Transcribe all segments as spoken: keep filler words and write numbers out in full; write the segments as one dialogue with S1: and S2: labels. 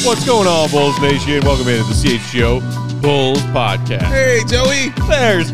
S1: What's going on, Bulls Nation? Welcome into the C H G O Bulls Podcast.
S2: Hey, Joey.
S1: There's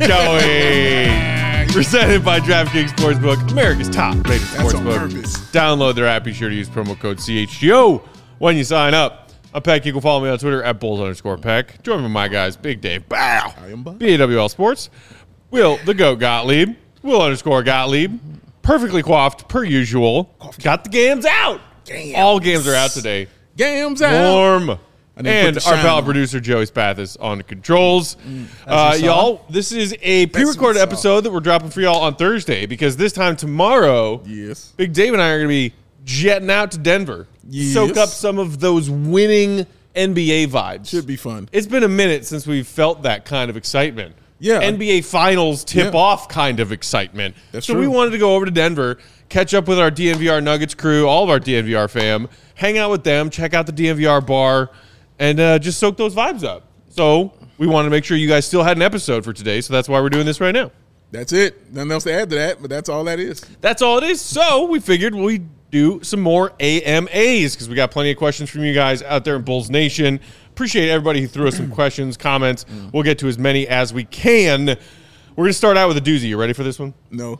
S1: Joey. Presented by DraftKings Sportsbook, America's top rated sportsbook. Download their app. Be sure to use promo code C H G O when you sign up. I'm Peck. You can follow me on Twitter at Bulls underscore Peck. Join me with my guys, Big Dave, Bow,
S2: I am Bob.
S1: B A W L Sports, Will, the GOAT Gottlieb, Will underscore Gottlieb, perfectly coiffed per usual. Got the games out.
S2: Gams.
S1: All games are out today.
S2: Gams out.
S1: Warm. And our pal
S2: on.
S1: producer, Joey Spathis, on the controls.
S2: Mm,
S1: uh, y'all, this is a pre-recorded episode that we're dropping for y'all on Thursday because this time tomorrow,
S2: yes,
S1: Big Dave and I are going to be jetting out to Denver.
S2: Yes.
S1: Soak up some of those winning N B A vibes.
S2: Should be fun.
S1: It's been a minute since we've felt that kind of excitement.
S2: Yeah.
S1: N B A Finals tip-off
S2: Yeah.
S1: kind of excitement.
S2: That's
S1: so
S2: true.
S1: we wanted to go over to Denver, catch up with our D N V R Nuggets crew, all of our D N V R fam, hang out with them, check out the D N V R bar, and uh, just soak those vibes up. So we wanted to make sure you guys still had an episode for today, so that's why we're doing this right now.
S2: That's it. Nothing else to add to that, but that's all that is.
S1: That's all it is. So we figured we'd do some more A M As because we got plenty of questions from you guys out there in Bulls Nation. Appreciate everybody who threw us some questions, comments. We'll get to as many as we can. We're going to start out with a doozy. You ready for this one?
S2: No.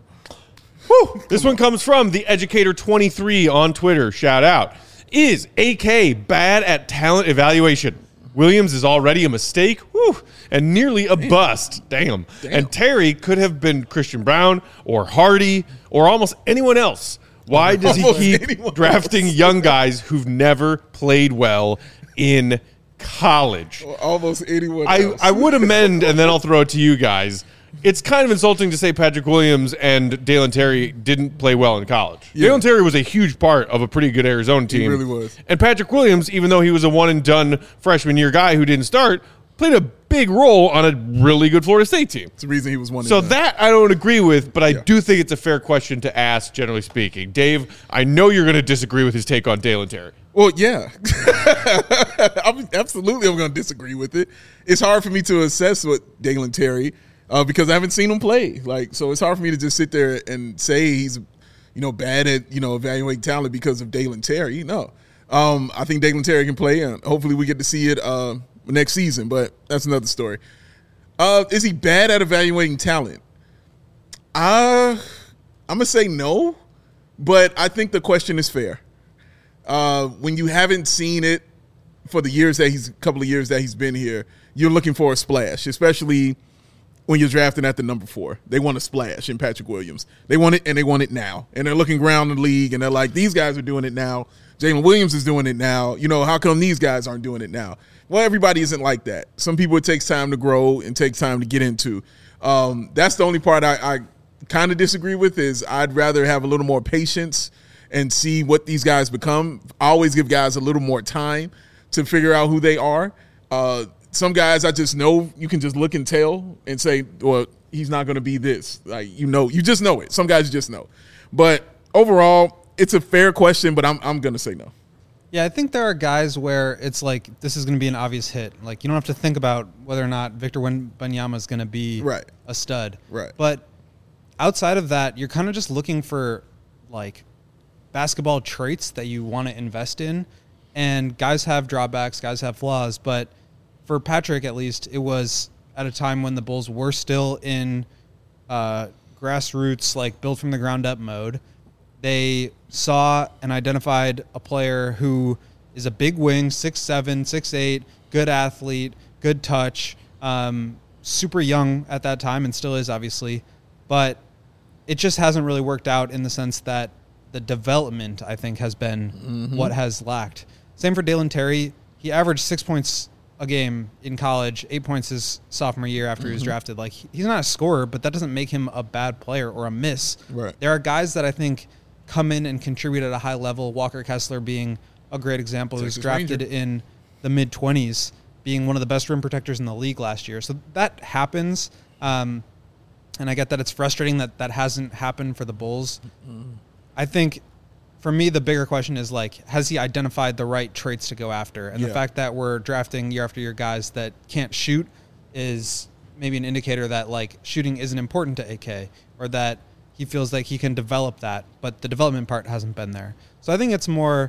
S1: Whew. This one comes from the Educator twenty-three on Twitter. Shout out. Is A K bad at talent evaluation? Williams is already a mistake whew, and nearly a Damn. bust. Damn. Damn. And Terry could have been Christian Brown or Hardy or almost anyone else. Why does he keep drafting else. young guys who've never played well in college?
S2: Or almost anyone
S1: I,
S2: else.
S1: I would amend, and then I'll throw it to you guys. It's kind of insulting to say Patrick Williams and Dalen Terry didn't play well in college. Yeah. Dalen Terry was a huge part of a pretty good Arizona team.
S2: He really was.
S1: And Patrick Williams, even though he was a one-and-done freshman year guy who didn't start, played a big role on a really good Florida State team.
S2: It's the reason he was one.
S1: So that I don't agree with, but I
S2: yeah.
S1: do think it's a fair question to ask, generally speaking. Dave, I know you're going to disagree with his take on Dalen Terry.
S2: Well, yeah. I'm, absolutely I'm going to disagree with it. It's hard for me to assess what Dalen Terry uh, because I haven't seen him play. Like, so it's hard for me to just sit there and say he's, you know, bad at, you know, evaluating talent because of Dalen Terry. No. Um, I think Dalen Terry can play, and hopefully we get to see it uh, next season, but that's another story. Uh, is he bad at evaluating talent? Uh, I'm going to say no, but I think the question is fair. Uh, when you haven't seen it for the years that he's, a couple of years that he's been here, you're looking for a splash, especially when you're drafting at the number four. They want a splash in Patrick Williams. They want it, and they want it now. And they're looking around the league, and they're like, these guys are doing it now. Jalen Williams is doing it now. You know, how come these guys aren't doing it now? Well, everybody isn't like that. Some people, it takes time to grow and takes time to get into. Um, that's the only part I, I kind of disagree with is I'd rather have a little more patience and see what these guys become. I always give guys a little more time to figure out who they are. Uh, some guys I just know you can just look and tell and say, well, he's not going to be this. Like, you know, you just know it. Some guys you just know. But overall, it's a fair question, but I'm I'm going to say no.
S3: Yeah, I think there are guys where it's like this is going to be an obvious hit. Like, you don't have to think about whether or not Victor Wembanyama is going to be
S2: right.
S3: a stud.
S2: Right.
S3: But outside of that, you're kind of just looking for, like, basketball traits that you want to invest in. And guys have drawbacks, guys have flaws. But for Patrick, at least, it was at a time when the Bulls were still in uh, grassroots, like, build from the ground up mode. They saw and identified a player who is a big wing, six seven, six eight, good athlete, good touch, um, super young at that time and still is, obviously. But it just hasn't really worked out in the sense that the development, I think, has been mm-hmm. what has lacked. Same for Dalen Terry. He averaged six points a game in college, eight points his sophomore year after mm-hmm. he was drafted. Like, he's not a scorer, but that doesn't make him a bad player or a miss.
S2: Right.
S3: There are guys that I think come in and contribute at a high level, Walker Kessler being a great example, who was drafted Ranger. in the mid-twenties, being one of the best rim protectors in the league last year. So that happens, um, and I get that it's frustrating that that hasn't happened for the Bulls. Mm-hmm. I think, for me, the bigger question is, like, has he identified the right traits to go after? And yeah. the fact that we're drafting year after year guys that can't shoot is maybe an indicator that, like, shooting isn't important to A K, or that he feels like he can develop that, but the development part hasn't been there. So I think it's more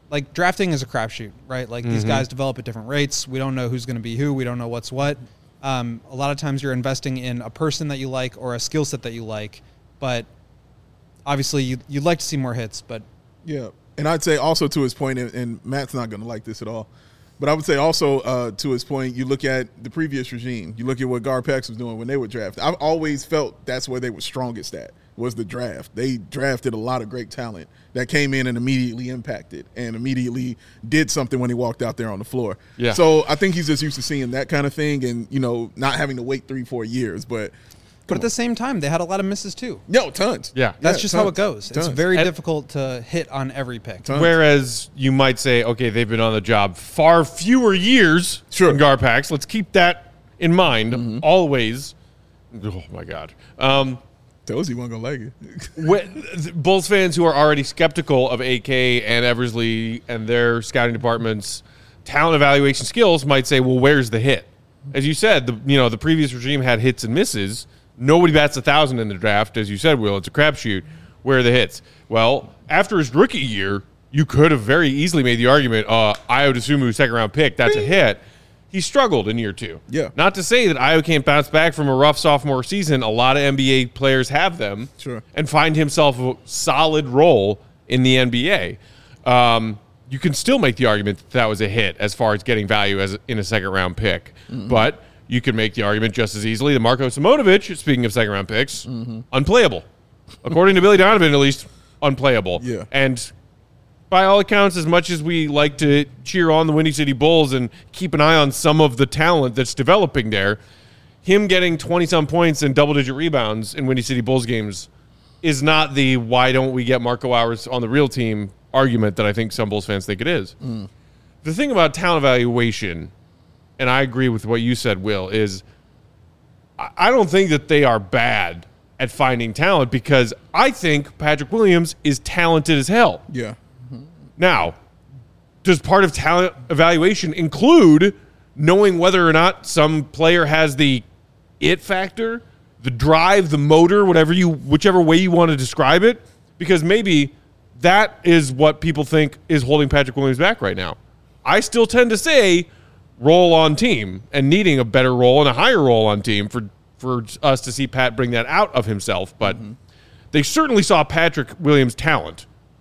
S3: like drafting is a crapshoot, right? Like mm-hmm. these guys develop at different rates. We don't know who's going to be who. We don't know what's what. Um, a lot of times you're investing in a person that you like or a skill set that you like, but obviously you, you'd like to see more hits, but
S2: yeah. And I'd say also to his point, and, and Matt's not going to like this at all, but I would say also uh, to his point, you look at the previous regime, you look at what GarPax was doing when they were drafted. I've always felt that's where they were strongest at, was the draft. They drafted a lot of great talent that came in and immediately impacted and immediately did something when he walked out there on the floor.
S1: Yeah.
S2: So I think he's just used to seeing that kind of thing and, you know, not having to wait three, four years. But
S3: But at the same time, they had a lot of misses too.
S2: No, tons.
S1: Yeah.
S3: That's
S2: yeah,
S3: just
S2: tons,
S3: how it goes.
S2: tons.
S3: It's very
S1: and,
S3: difficult to hit on every pick.
S2: Tons.
S1: Whereas you might say, okay, they've been on the job far fewer years
S2: sure.
S1: than GarPax. Let's keep that in mind mm-hmm. always. Oh, my God. Um,
S2: Tells you wasn't going to like it.
S1: when, Bulls fans who are already skeptical of A K and Eversley and their scouting department's talent evaluation skills might say, well, where's the hit? As you said, the you know the previous regime had hits and misses. Nobody bats a thousand in the draft, as you said, Will. It's a crapshoot. Where are the hits? Well, after his rookie year, you could have very easily made the argument, uh, Ayo Dosunmu, second round pick, that's a hit. He struggled in year two.
S2: Yeah.
S1: Not to say that Ayo can't bounce back from a rough sophomore season. A lot of N B A players have them.
S2: Sure.
S1: And find himself a solid role in the N B A. Um, you can still make the argument that that was a hit as far as getting value as in a second round pick. Mm-hmm. But you can make the argument just as easily that Marko Simonovic, speaking of second round picks, mm-hmm. unplayable. According to Billy Donovan, at least, unplayable.
S2: Yeah.
S1: And by all accounts, as much as we like to cheer on the Windy City Bulls and keep an eye on some of the talent that's developing there, him getting twenty-some points and double-digit rebounds in Windy City Bulls games is not the why don't we get Marco Hours on the real team argument that I think some Bulls fans think it is. Mm. The thing about talent evaluation, and I agree with what you said, Will, is I don't think that they are bad at finding talent because I think Patrick Williams is talented as hell.
S2: Yeah.
S1: Now, does part of talent evaluation include knowing whether or not some player has the it factor, the drive, the motor, whatever you, whichever way you want to describe it? Because maybe that is what people think is holding Patrick Williams back right now. I still tend to say role on team and needing a better role and a higher role on team for, for us to see Pat bring that out of himself. But mm-hmm. they certainly saw Patrick Williams' talent.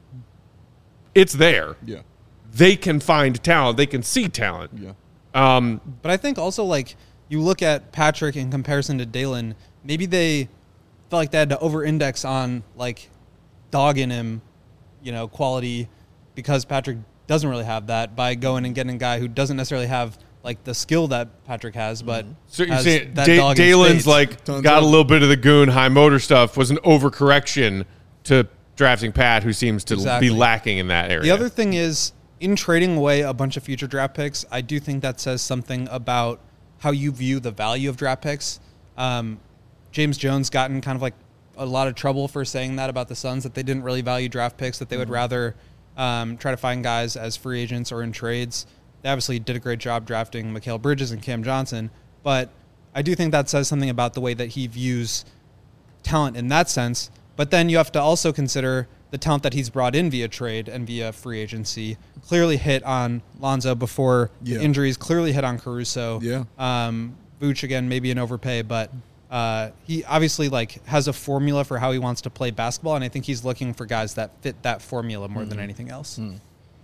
S1: It's there.
S2: Yeah.
S1: They can find talent. They can see talent.
S2: Yeah.
S1: Um,
S3: but I think also, like, you look at Patrick in comparison to Dalen, maybe they felt like they had to over-index on, like, dog in him, you know, quality because Patrick doesn't really have that by going and getting a guy who doesn't necessarily have, like, the skill that Patrick has, but
S1: so you're
S3: has
S1: saying
S3: that
S1: da-
S3: dog in
S1: Dalen's,
S3: spades.
S1: like,
S2: Tons
S1: got
S2: of-
S1: a little bit of the goon, high motor stuff, was an overcorrection to drafting Pat, who seems to
S3: Exactly.
S1: be lacking in that area.
S3: The other thing is, in trading away a bunch of future draft picks, I do think that says something about how you view the value of draft picks. Um, James Jones got in kind of like a lot of trouble for saying that about the Suns, that they didn't really value draft picks, that they would rather um, try to find guys as free agents or in trades. They obviously did a great job drafting Mikal Bridges and Cam Johnson, but I do think that says something about the way that he views talent in that sense. But then you have to also consider the talent that he's brought in via trade and via free agency. Clearly hit on Lonzo before
S2: Yeah.
S3: injuries, clearly hit on Caruso.
S2: Yeah.
S3: Um, Vooch, again, maybe an overpay, but uh, he obviously like has a formula for how he wants to play basketball, and I think he's looking for guys that fit that formula more mm. than anything else. Mm.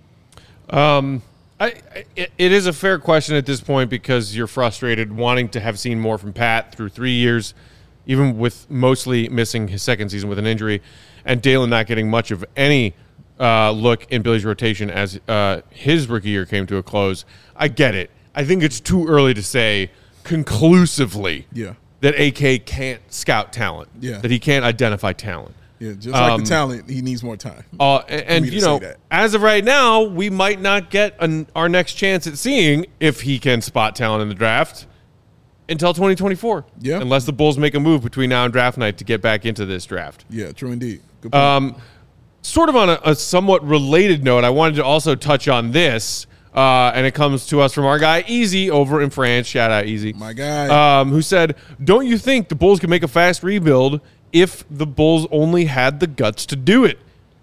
S1: Um, I, I it, it is a fair question at this point because you're frustrated wanting to have seen more from Pat through three years, even with mostly missing his second season with an injury, and Dalen not getting much of any uh, look in Billy's rotation as uh, his rookie year came to a close. I get it. I think it's too early to say conclusively
S2: Yeah.
S1: that A K can't scout talent,
S2: Yeah.
S1: that he can't identify talent.
S2: Yeah, just like
S1: Um,
S2: the talent, he needs more time.
S1: Uh, and, and
S2: me to
S1: you
S2: say
S1: know,
S2: that.
S1: as of right now, we might not get an, our next chance at seeing if he can spot talent in the draft until twenty twenty-four.
S2: Yeah.
S1: Unless the Bulls make a move between now and draft night to get back into this draft.
S2: Yeah, true indeed. Good point.
S1: Um, sort of on a, a somewhat related note, I wanted to also touch on this, uh, and it comes to us from our guy Easy over in France. Shout out Easy,
S2: My guy.
S1: um, who said, "Don't you think the Bulls could make a fast rebuild if the Bulls only had the guts to do it?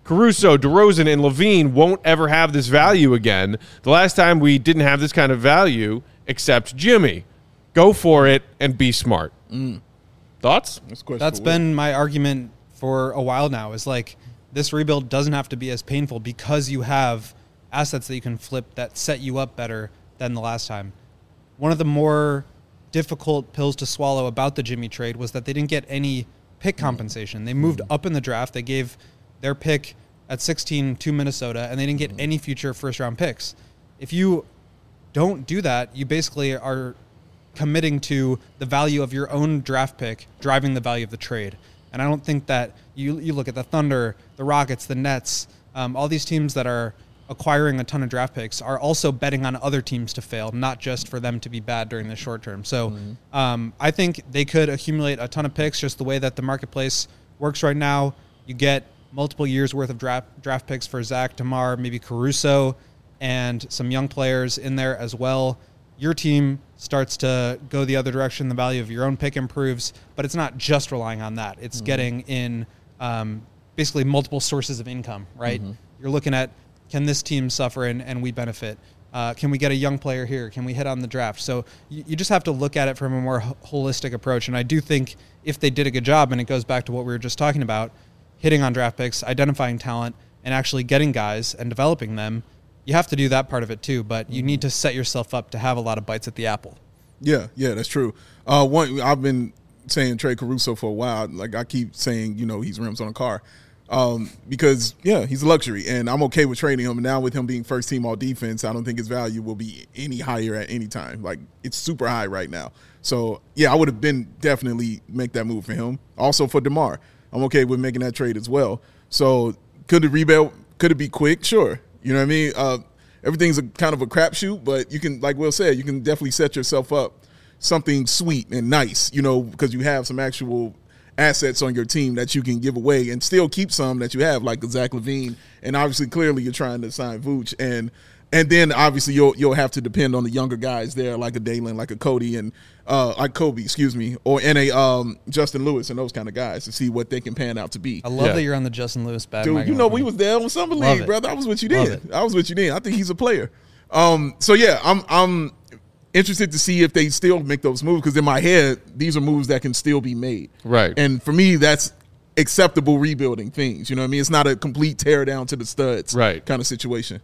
S1: Caruso, DeRozan, and Levine won't ever have this value again. The last time we didn't have this kind of value, except Jimmy. Go for it and be smart.
S2: Mm.
S1: Thoughts?
S2: That's, a
S3: That's been my argument for a while now, is like this rebuild doesn't have to be as painful because you have assets that you can flip that set you up better than the last time. One of the more difficult pills to swallow about the Jimmy trade was that they didn't get any pick compensation. They moved up in the draft. They gave their pick at sixteen to Minnesota, and they didn't get any future first-round picks. If you don't do that, you basically are committing to the value of your own draft pick driving the value of the trade. And I don't think that you you look at the Thunder, the Rockets, the Nets, um, all these teams that are acquiring a ton of draft picks are also betting on other teams to fail, not just for them to be bad during the short term. So mm-hmm. um, I think they could accumulate a ton of picks just the way that the marketplace works right now. You get multiple years worth of draft draft picks for Zach, DeMar, maybe Caruso, and some young players in there as well. Your team starts to go the other direction. The value of your own pick improves, but it's not just relying on that. It's mm-hmm. getting in um, basically multiple sources of income, right? Mm-hmm. You're looking at, can this team suffer and, and we benefit? Uh, can we get a young player here? Can we hit on the draft? So you, you just have to look at it from a more ho- holistic approach. And I do think if they did a good job, and it goes back to what we were just talking about, hitting on draft picks, identifying talent, and actually getting guys and developing them, you have to do that part of it too, but you need to set yourself up to have a lot of bites at the apple.
S2: Yeah, yeah, that's true. Uh, one, I've been saying trade Caruso for a while. Like I keep saying, you know, he's rims on a car. Um, because, yeah, he's a luxury, and I'm okay with trading him. And now with him being first team all defense, I don't think his value will be any higher at any time. Like, it's super high right now. So, yeah, I would have been definitely make that move for him. Also for DeMar, I'm okay with making that trade as well. So could the rebuild, could it be quick? Sure. You know what I mean? Uh, everything's a kind of a crapshoot, but you can, like Will said, you can definitely set yourself up something sweet and nice, you know, because you have some actual assets on your team that you can give away and still keep some that you have, like Zach LaVine. And obviously, clearly, you're trying to sign Vooch. And and then, obviously, you'll you'll have to depend on the younger guys there, like a Dalen, like a Cody, and uh, like Kobe, excuse me, or and a um, Justin Lewis and those kind of guys to see what they can pan out to be.
S3: I love
S1: yeah.
S3: that you're on the Justin Lewis bag.
S2: Dude, you know, we was there on Summer League, brother. I was with you then. I was with you then. I think he's a player. Um, so, yeah, I'm I'm interested to see if they still make those moves, because in my head, these are moves that can still be made.
S1: Right.
S2: And for me, that's acceptable rebuilding things. You know what I mean? It's not a complete tear down to the studs
S1: right.
S2: kind of situation.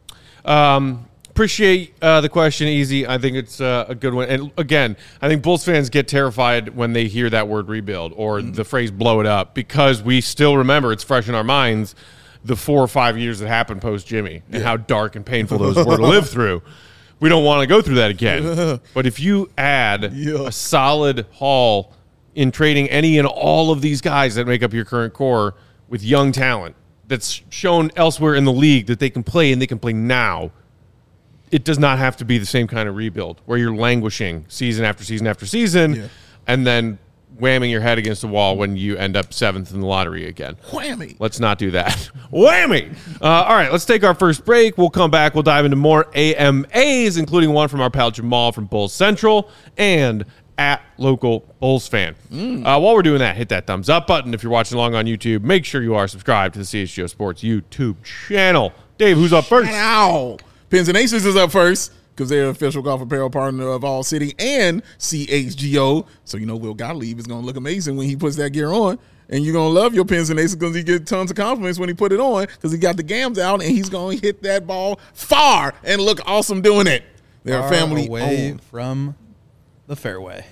S1: Um, appreciate uh, the question, Easy. I think it's uh, a good one. And again, I think Bulls fans get terrified when they hear that word rebuild or mm. the phrase blow it up, because we still remember, it's fresh in our minds, the four or five years that happened post Jimmy and yeah. how dark and painful those were to live through. We don't want to go through that again. But if you add yeah. a solid haul in trading any and all of these guys that make up your current core with young talent that's shown elsewhere in the league that they can play and they can play now, it does not have to be the same kind of rebuild where you're languishing season after season after season yeah. and then whamming your head against the wall when you end up seventh in the lottery again.
S2: Whammy.
S1: Let's not do that. Whammy. Uh, all right, let's take our first break. We'll come back. We'll dive into more A M As, including one from our pal Jamal from Bulls Central and at Local Bulls Fan. Mm. Uh, while we're doing that, hit that thumbs up button. If you're watching along on YouTube, make sure you are subscribed to the C H G O Sports YouTube channel. Dave, who's up first?
S2: Ow. Pins and Aces is up first, because they're official golf apparel partner of All City and C H G O. So, you know, Will Gottlieb is going to look amazing when he puts that gear on. And you're going to love your Pins and Aces because he get tons of compliments when he put it on, because he got the gams out and he's going to hit that ball far and look awesome doing it. They're
S3: far
S2: a family
S3: away
S2: owned.
S3: from the fairway.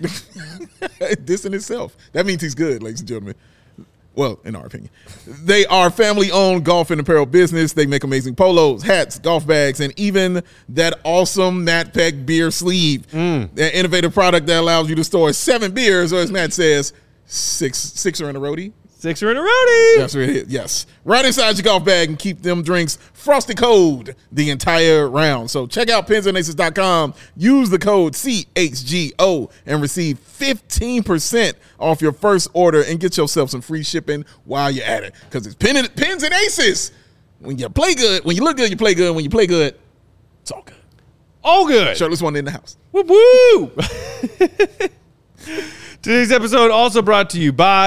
S2: This in itself. That means he's good, ladies and gentlemen. Well, in our opinion. They are family-owned golf and apparel business. They make amazing polos, hats, golf bags, and even that awesome Matt Peck beer sleeve. Mm. That innovative product that allows you to store seven beers, or as Matt says, six six are in a roadie.
S1: Sixer in a roadie.
S2: That's what it is, yes. Right inside your golf bag and keep them drinks frosty cold the entire round. So check out pins and aces dot com. Use the code C H G O and receive fifteen percent off your first order and get yourself some free shipping while you're at it. Because it's pin and, Pins and Aces. When you play good, when you look good, you play good. When you play good, it's all good.
S1: All good.
S2: Shirtless one in the house.
S1: Woo woo. Today's episode also brought to you by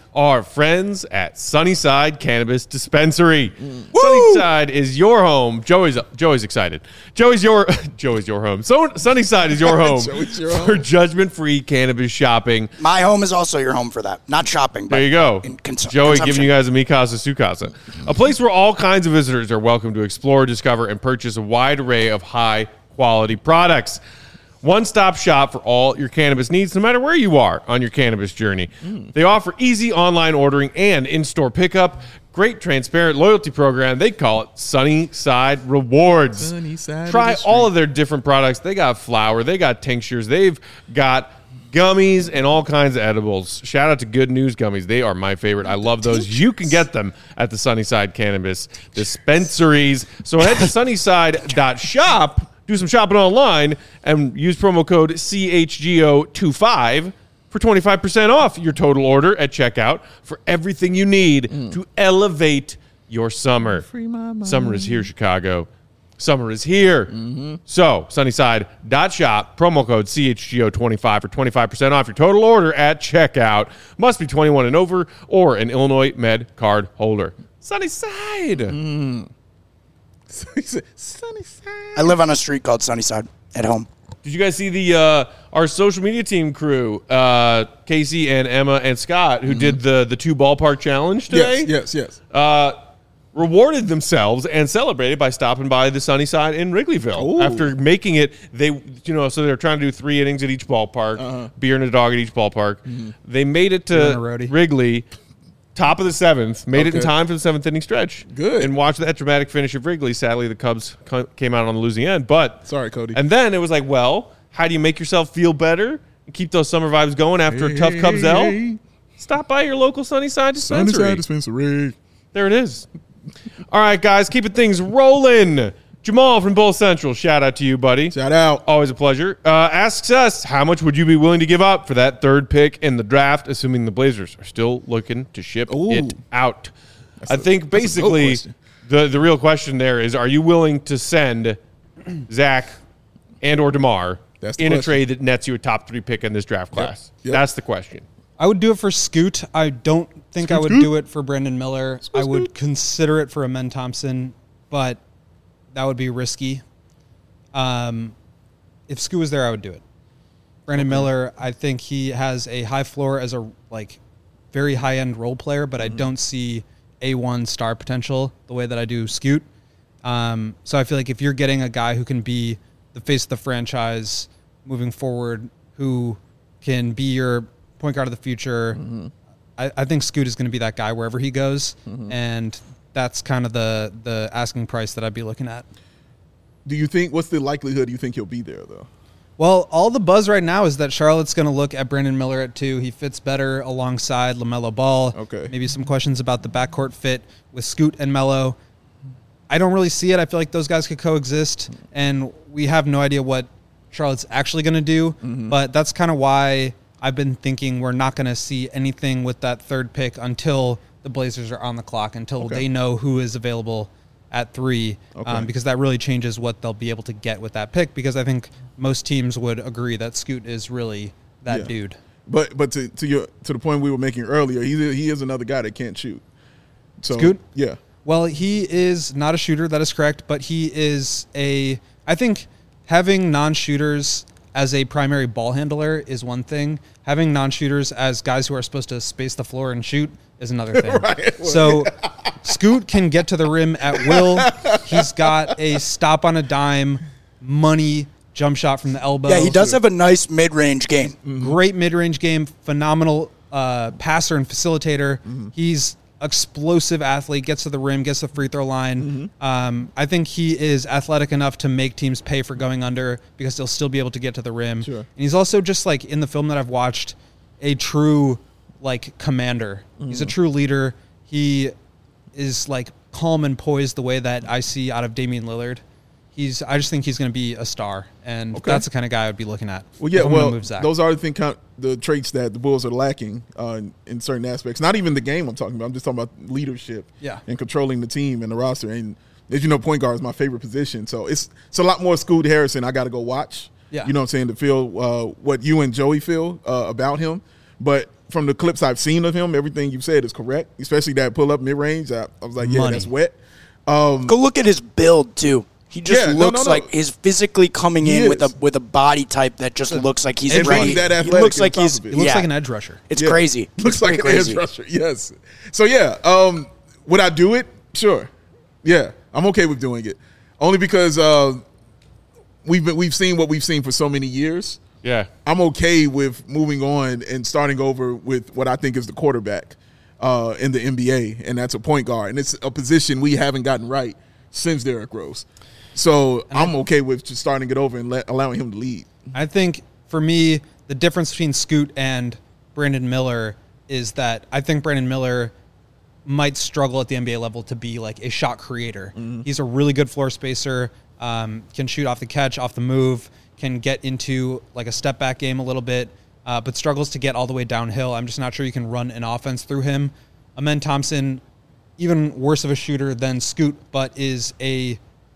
S1: our friends at Sunnyside Cannabis Dispensary. Mm. Sunnyside is your home. Joey's Joey's excited. Joey's your Joey's your home. So Sunnyside is your home
S2: your
S1: for
S2: home.
S1: judgment-free cannabis shopping.
S4: My home is also your home for that. Not shopping, but
S1: there you go.
S4: in cons-
S1: Joey
S4: consumption.
S1: giving you guys a Mi Casa Su Casa. A place where all kinds of visitors are welcome to explore, discover, and purchase a wide array of high-quality products. One-stop shop for all your cannabis needs, no matter where you are on your cannabis journey. Mm. They offer easy online ordering and in-store pickup. Great transparent loyalty program. They call it Sunnyside Rewards.
S2: Sunnyside
S1: Try
S2: of the
S1: all of their different products. They got flour. They got tinctures. They've got gummies and all kinds of edibles. Shout out to Good News Gummies. They are my favorite. I love those. You can get them at the Sunnyside Cannabis Dispensaries. So head to sunnyside dot shop. Do some shopping online and use promo code C H G O twenty-five for twenty-five percent off your total order at checkout for everything you need mm. to elevate your summer. Summer is here, Chicago. Summer is here. Mm-hmm. So, sunnyside dot shop, promo code C H G O twenty-five for twenty-five percent off your total order at checkout. Must be twenty-one and over or an Illinois Med card holder. Sunnyside.
S2: Mm. Sunnyside.
S4: I live on a street called Sunnyside at home.
S1: Did you guys see the uh, our social media team crew, uh, Casey and Emma and Scott, who mm-hmm. did the the two ballpark challenge today?
S2: Yes, yes, yes.
S1: Uh, rewarded themselves and celebrated by stopping by the Sunnyside in Wrigleyville. Ooh. After making it. They, you know, so they're trying to do three innings at each ballpark, uh-huh. beer and a dog at each ballpark. Mm-hmm. They made it to Wrigley. Top of the seventh, made okay. it in time for the seventh inning stretch.
S2: Good.
S1: And watched that dramatic finish of Wrigley. Sadly, the Cubs came out on the losing end. But
S2: sorry, Cody.
S1: And then it was like, well, how do you make yourself feel better and keep those summer vibes going after
S2: hey,
S1: a tough Cubs
S2: hey,
S1: L?
S2: Hey.
S1: Stop by your local Sunnyside Dispensary.
S2: Sunnyside Dispensary.
S1: There it is. All right, guys, keeping things rolling. Jamal from Bull Central, shout out to you, buddy.
S2: Shout out.
S1: Always a pleasure. Uh, asks us, how much would you be willing to give up for that third pick in the draft, assuming the Blazers are still looking to ship Ooh. it out? That's I a, think basically the, the real question there is, are you willing to send Zach and or DeMar in question. a trade that nets you a top three pick in this draft class? Yep. Yep. That's the question.
S3: I would do it for Scoot. I don't think Scoot, I would Scoot. do it for Brandon Miller. Scoot, I would Scoot. consider it for Amen Thompson, but that would be risky. Um, if Scoot was there, I would do it. Brandon okay. Miller, I think he has a high floor as a like very high-end role player, but mm-hmm. I don't see A one star potential the way that I do Scoot. Um, so I feel like if you're getting a guy who can be the face of the franchise moving forward, who can be your point guard of the future, mm-hmm. I, I think Scoot is going to be that guy wherever he goes, mm-hmm. and that's kind of the the asking price that I'd be looking at.
S2: Do you think, what's the likelihood you think he'll be there, though?
S3: Well, all the buzz right now is that Charlotte's going to look at Brandon Miller at two. He fits better alongside LaMelo Ball.
S2: Okay.
S3: Maybe some questions about the backcourt fit with Scoot and Melo. I don't really see it. I feel like those guys could coexist, and we have no idea what Charlotte's actually going to do, mm-hmm. but that's kind of why I've been thinking we're not going to see anything with that third pick until the Blazers are on the clock, until okay. they know who is available at three, okay. um, because that really changes what they'll be able to get with that pick, because I think most teams would agree that Scoot is really that yeah. dude.
S2: But but to to your to the point we were making earlier, he he is another guy that can't shoot. So,
S3: Scoot?
S2: Yeah.
S3: Well, he is not a shooter, that is correct, but he is a – I think having non-shooters as a primary ball handler is one thing. Having non-shooters as guys who are supposed to space the floor and shoot is another thing. Right. So Scoot can get to the rim at will. He's got a stop on a dime, money jump shot from the elbow.
S4: Yeah, he does have a nice mid-range game.
S3: Mm-hmm. Great mid-range game, phenomenal uh, passer and facilitator. Mm-hmm. He's explosive athlete, gets to the rim, gets the free throw line. Mm-hmm. Um, I think he is athletic enough to make teams pay for going under because they'll still be able to get to the rim.
S2: Sure.
S3: And he's also just like in the film that I've watched, a true like commander. Mm-hmm. He's a true leader. He is like calm and poised the way that I see out of Damian Lillard. He's. I just think he's going to be a star, and okay. that's the kind of guy I'd be looking at.
S2: Well, yeah, well, those are the thing, the traits that the Bulls are lacking uh, in, in certain aspects. Not even the game I'm talking about. I'm just talking about leadership,
S3: yeah.
S2: and controlling the team and the roster. And as you know, point guard is my favorite position, so it's it's a lot more Scoot Harrison. I got to go watch.
S3: Yeah.
S2: You know what I'm saying, to feel uh, what you and Joey feel uh, about him. But from the clips I've seen of him, everything you said is correct, especially that pull up mid range. I, I was like, yeah,
S3: Money.
S2: that's wet. Um,
S4: Go look at his build too. He just
S2: Yeah, no,
S4: looks
S2: no, no.
S4: like he's physically coming
S2: He
S4: in with a
S2: is.
S4: with a body type that just looks like he's
S2: And
S4: ready.
S2: being that
S4: he
S2: athletic
S4: looks
S2: on
S4: like
S2: top
S4: he's
S2: of it.
S3: He looks
S4: yeah.
S3: like an edge rusher.
S4: It's
S2: Yeah.
S4: crazy.
S2: Looks
S4: It's
S2: like
S4: pretty
S2: an
S4: crazy.
S2: edge rusher. Yes. So yeah, um, would I do it? Sure. Yeah, I'm okay with doing it. Only because uh, we've been, we've seen what we've seen for so many years.
S1: Yeah.
S2: I'm okay with moving on and starting over with what I think is the quarterback uh, in the N B A, and that's a point guard, and it's a position we haven't gotten right since Derrick Rose. So I'm okay with just starting it over and let, allowing him to lead.
S3: I think for me, the difference between Scoot and Brandon Miller is that I think Brandon Miller might struggle at the N B A level to be like a shot creator.
S2: Mm-hmm.
S3: He's a really good floor spacer, um, can shoot off the catch, off the move, can get into like a step back game a little bit, uh, but struggles to get all the way downhill. I'm just not sure you can run an offense through him. Amen Thompson, even worse of a shooter than Scoot, but is a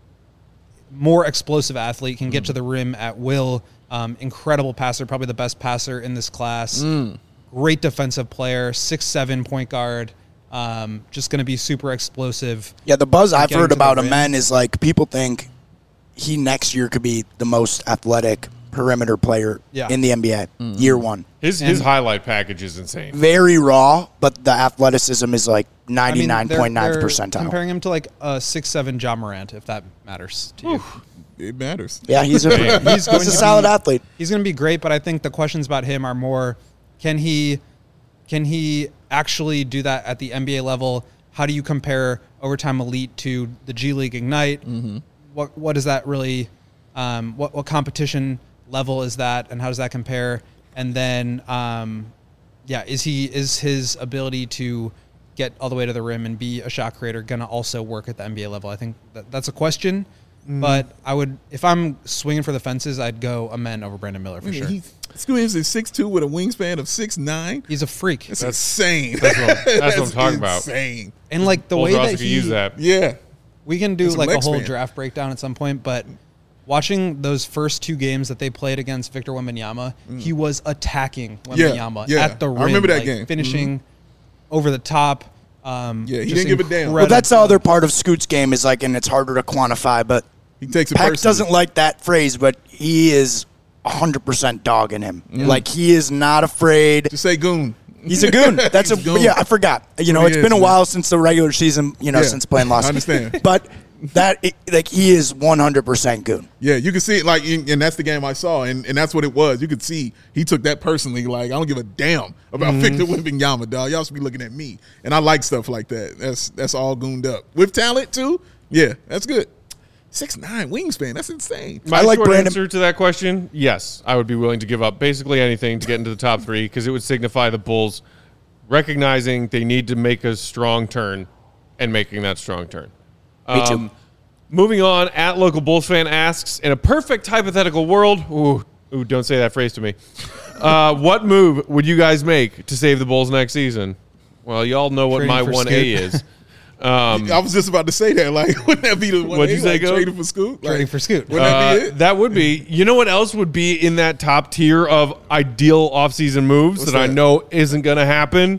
S3: more explosive athlete, can get to the rim at will. Um, incredible passer, probably the best passer in this class. Great defensive player, six seven point guard. Um, just going to be super explosive.
S4: Yeah, the buzz I've
S3: Getting
S4: heard
S3: to the
S4: about
S3: rim.
S4: Amen is like people think he next year could be the most athletic perimeter player
S3: Yeah.
S4: in the N B A
S2: Mm-hmm.
S4: year one.
S1: His his
S3: And-
S1: highlight package is insane.
S4: Very raw, but the athleticism is like
S3: I mean,
S4: ninety-nine
S3: they're-
S4: point nine
S3: they're
S4: percentile.
S3: Comparing him to like a six seven Ja Morant, if that matters to you.
S2: It matters.
S4: Yeah, he's a
S1: Yeah,
S3: he's
S4: he's,
S3: going
S4: a
S3: to
S4: solid
S3: be-
S4: athlete.
S3: He's going to be great, but I think the questions about him are more: can he, can he actually do that at the N B A level? How do you compare Overtime Elite to the G League Ignite?
S2: Mm-hmm.
S3: What what does that really? Um, what what competition level is that, and how does that compare? And then, um, yeah, is he is his ability to get all the way to the rim and be a shot creator going to also work at the N B A level? I think that, that's a question.
S2: Mm.
S3: But I would, if I'm swinging for the fences, I'd go Amen over Brandon Miller for sure.
S2: He's, Scoot Henderson is six two with a wingspan of six nine.
S3: He's a freak,
S2: That's, insane.
S1: That's what, I'm- that's what I'm talking about.
S2: Insane.
S3: and like the
S1: Bulls
S3: way
S1: roster
S3: that
S1: could
S3: he,
S1: use that.
S2: Yeah.
S3: we can do
S2: That's a
S3: like a
S2: leg
S3: whole
S2: span.
S3: draft breakdown at some point. But watching those first two games that they played against Victor Wembanyama, he was attacking
S2: Yeah,
S3: Wembanyama
S2: yeah.
S3: at the rim.
S2: I remember that
S3: like,
S2: game.
S3: finishing over the top. Um,
S2: Yeah, he
S3: just
S2: didn't give a damn.
S4: Well, that's the
S3: incredible.
S4: other part of Scoot's game is like, and it's harder to quantify, but
S2: He takes it
S4: Peck
S2: personally.
S4: doesn't like that phrase, but he is one hundred percent dog in him. Like, he is not afraid.
S2: Just say goon.
S4: He's a goon. That's a
S2: He's goon.
S4: yeah. I forgot. You know,
S2: He
S4: it's
S2: is,
S4: been a
S2: man.
S4: while since the regular season. You know,
S2: Yeah,
S4: since playing lost.
S2: I understand.
S4: But that it, like he is one hundred percent goon.
S2: Yeah, you can see it, like, and that's the game I saw, and, and that's what it was. You could see he took that personally. Like, I don't give a damn about Victor Wembanyama, dog. Y'all should be looking at me, and I like stuff like that. That's that's all gooned up with talent too. Yeah, that's good. Six nine wingspan. That's insane.
S1: My
S4: I like
S1: short
S4: Brandon-
S1: answer to that question, yes, I would be willing to give up basically anything to get into the top three because it would signify the Bulls recognizing they need to make a strong turn and making that strong turn.
S4: Me too.
S1: Um, moving on, at local Bulls fan asks, in a perfect hypothetical world, ooh, ooh don't say that phrase to me. Uh, what move would you guys make to save the Bulls next season? Well, y'all know what
S3: Trading
S1: my
S3: for
S1: one A
S3: Scoot.
S1: is. Um,
S2: I was just about to say that. Like, wouldn't that be the one?
S1: What'd you say,
S2: like,
S1: Goat?
S2: trading for Scoot? Like,
S3: Trading for Scoot.
S2: Wouldn't that
S1: Uh,
S2: be it?
S1: that would be. You know what else would be in that top tier of ideal offseason moves
S2: What's
S1: that, I
S2: that?
S1: know isn't going to happen?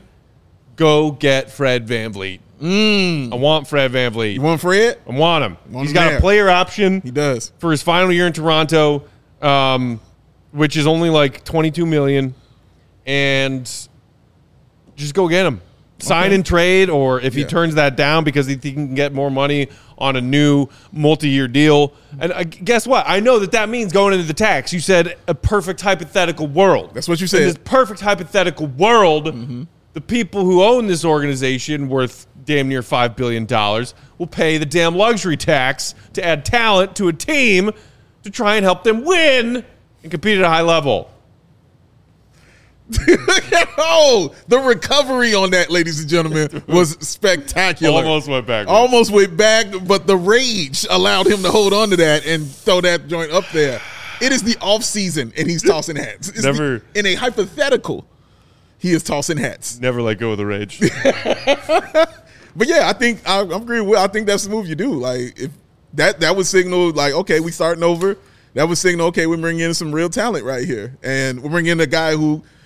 S1: Go get Fred VanVleet. Mm. I want Fred VanVleet.
S2: You want Fred?
S1: I want him.
S2: Want
S1: He's
S2: him
S1: got
S2: there.
S1: a player option
S2: He does.
S1: for his final year in Toronto, um, which is only like twenty-two million dollars, and just go get him. Sign
S2: Okay.
S1: and trade, or if he
S2: Yeah.
S1: turns that down because he, he can get more money on a new multi-year deal. And uh, guess what? I know that that means going into the tax. You said a perfect hypothetical world.
S2: That's what you
S1: In
S2: said.
S1: this perfect hypothetical world, the people who own this organization worth damn near five billion dollars will pay the damn luxury tax to add talent to a team to try and help them win and compete at a high level.
S2: Oh, the recovery on that, ladies and gentlemen, was spectacular.
S1: Almost went backwards.
S2: Almost went back, but the rage allowed him to hold on to that and throw that joint up there. It is the off season, and he's tossing hats. It's
S1: Never-
S2: the- in a hypothetical, he is tossing hats.
S1: Never let go of the rage.
S2: But yeah, I think I, I'm agreeing with. I think that's the move you do. Like if that that would signal like, okay, we starting over. That would signal, okay, we're bringing in some real talent right here, and we're bringing in a guy who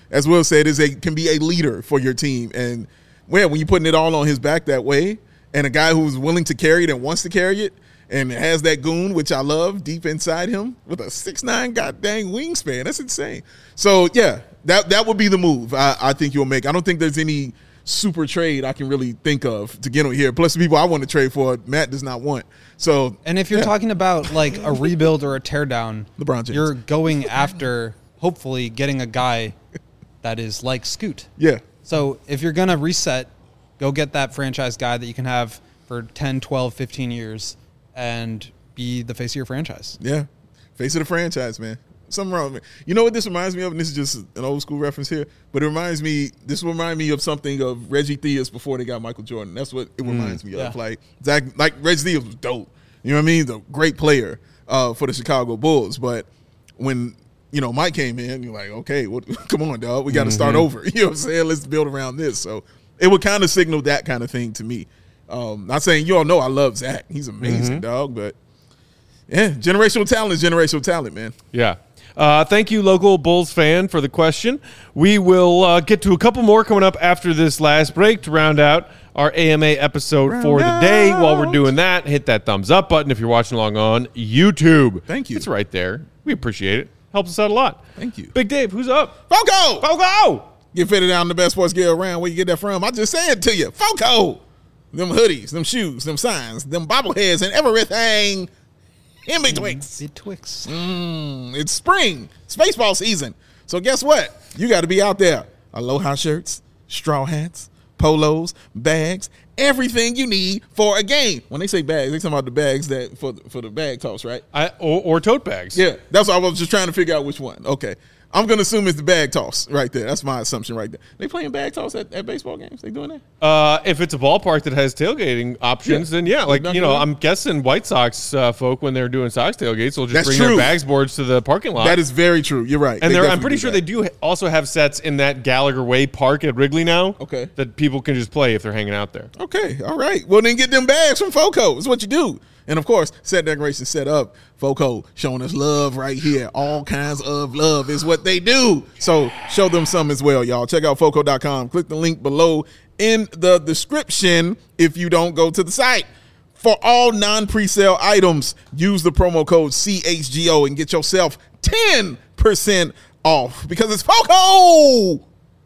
S2: as Will said, is a can be a leader for your team. And well, when you're putting it all on his back that way, and a guy who's willing to carry it and wants to carry it, and has that goon, which I love, deep inside him with a six nine god dang wingspan. That's insane. So, yeah, that that would be the move I, I think you'll make. I don't think there's any super trade I can really think of to get on here. Plus, the people I want to trade for, Matt does not want. So,
S3: and if you're
S2: yeah.
S3: talking about like a rebuild or a teardown,
S2: LeBron James.
S3: you're going after hopefully getting a guy that is like Scoot.
S2: Yeah.
S3: So if you're going to reset, go get that franchise guy that you can have for ten, twelve, fifteen years and be the face of your franchise.
S2: Yeah. Face of the franchise, man. Something wrong with me. You know what this reminds me of? And this is just an old school reference here, but it reminds me, this will remind me of something of Reggie Theus before they got Michael Jordan. That's what it reminds me
S3: yeah.
S2: of. Like, Zach, like Reggie Theus was dope. You know what I mean? The great player uh, for the Chicago Bulls. But when, you know, Mike came in, you're like, okay, well, come on, dog. We got to mm-hmm. start over. You know what I'm saying? Let's build around this. So it would kind of signal that kind of thing to me. Um, not saying you all know I love Zach. He's amazing, mm-hmm. dog. But, yeah, generational talent is generational talent, man.
S1: Yeah. Uh, thank you, local Bulls fan, for the question. We will uh, get to a couple more coming up after this last break to round out our A M A episode
S2: round
S1: for the day.
S2: out.
S1: While we're doing that, hit that thumbs up button if you're watching along on YouTube.
S2: Thank you.
S1: It's right there. We appreciate it. Helps us out a lot.
S2: Thank you.
S1: Big Dave, who's up?
S2: Foco!
S1: Foco!
S2: Get fitted out in the best sports gear around. Where you get that from? I just said it to you. Foco! Them hoodies, them shoes, them signs, them bobbleheads, and everything in betwixt.
S3: Betwixt.
S2: Mm, it's spring. It's baseball season. So guess what? You got to be out there. Aloha shirts, straw hats, polos, bags, everything you need for a game. When they say bags, they talking about the bags that for for the bag toss, right?
S1: I, or, or tote bags.
S2: Yeah, that's what I was just trying to figure out which one. Okay. I'm going to assume it's the bag toss right there. That's my assumption right there. They playing bag toss at, at baseball games? They doing that?
S1: Uh, if it's a ballpark that has tailgating options,
S2: Yeah.
S1: then yeah. Like,
S2: Not
S1: you know,
S2: good.
S1: I'm guessing White Sox uh, folk, when they're doing Sox tailgates, will just
S2: That's
S1: bring
S2: true.
S1: their bags boards to the parking lot.
S2: That is very true. You're right.
S1: And
S2: They
S1: they're, I'm
S2: definitely
S1: pretty
S2: do
S1: sure
S2: that.
S1: they do ha- also have sets in that Gallagher Way Park at Wrigley now.
S2: Okay.
S1: That people can just play if they're hanging out there.
S2: Okay, all right. Well, then get them bags from Foco. That's what you do. And, of course, set decoration set up. Foco showing us love right here. All kinds of love is what they do. So show them some as well, y'all. Check out Foco dot com. Click the link below in the description if you don't go to the site. For all non-presale items, use the promo code C H G O and get yourself ten percent off because it's Foco.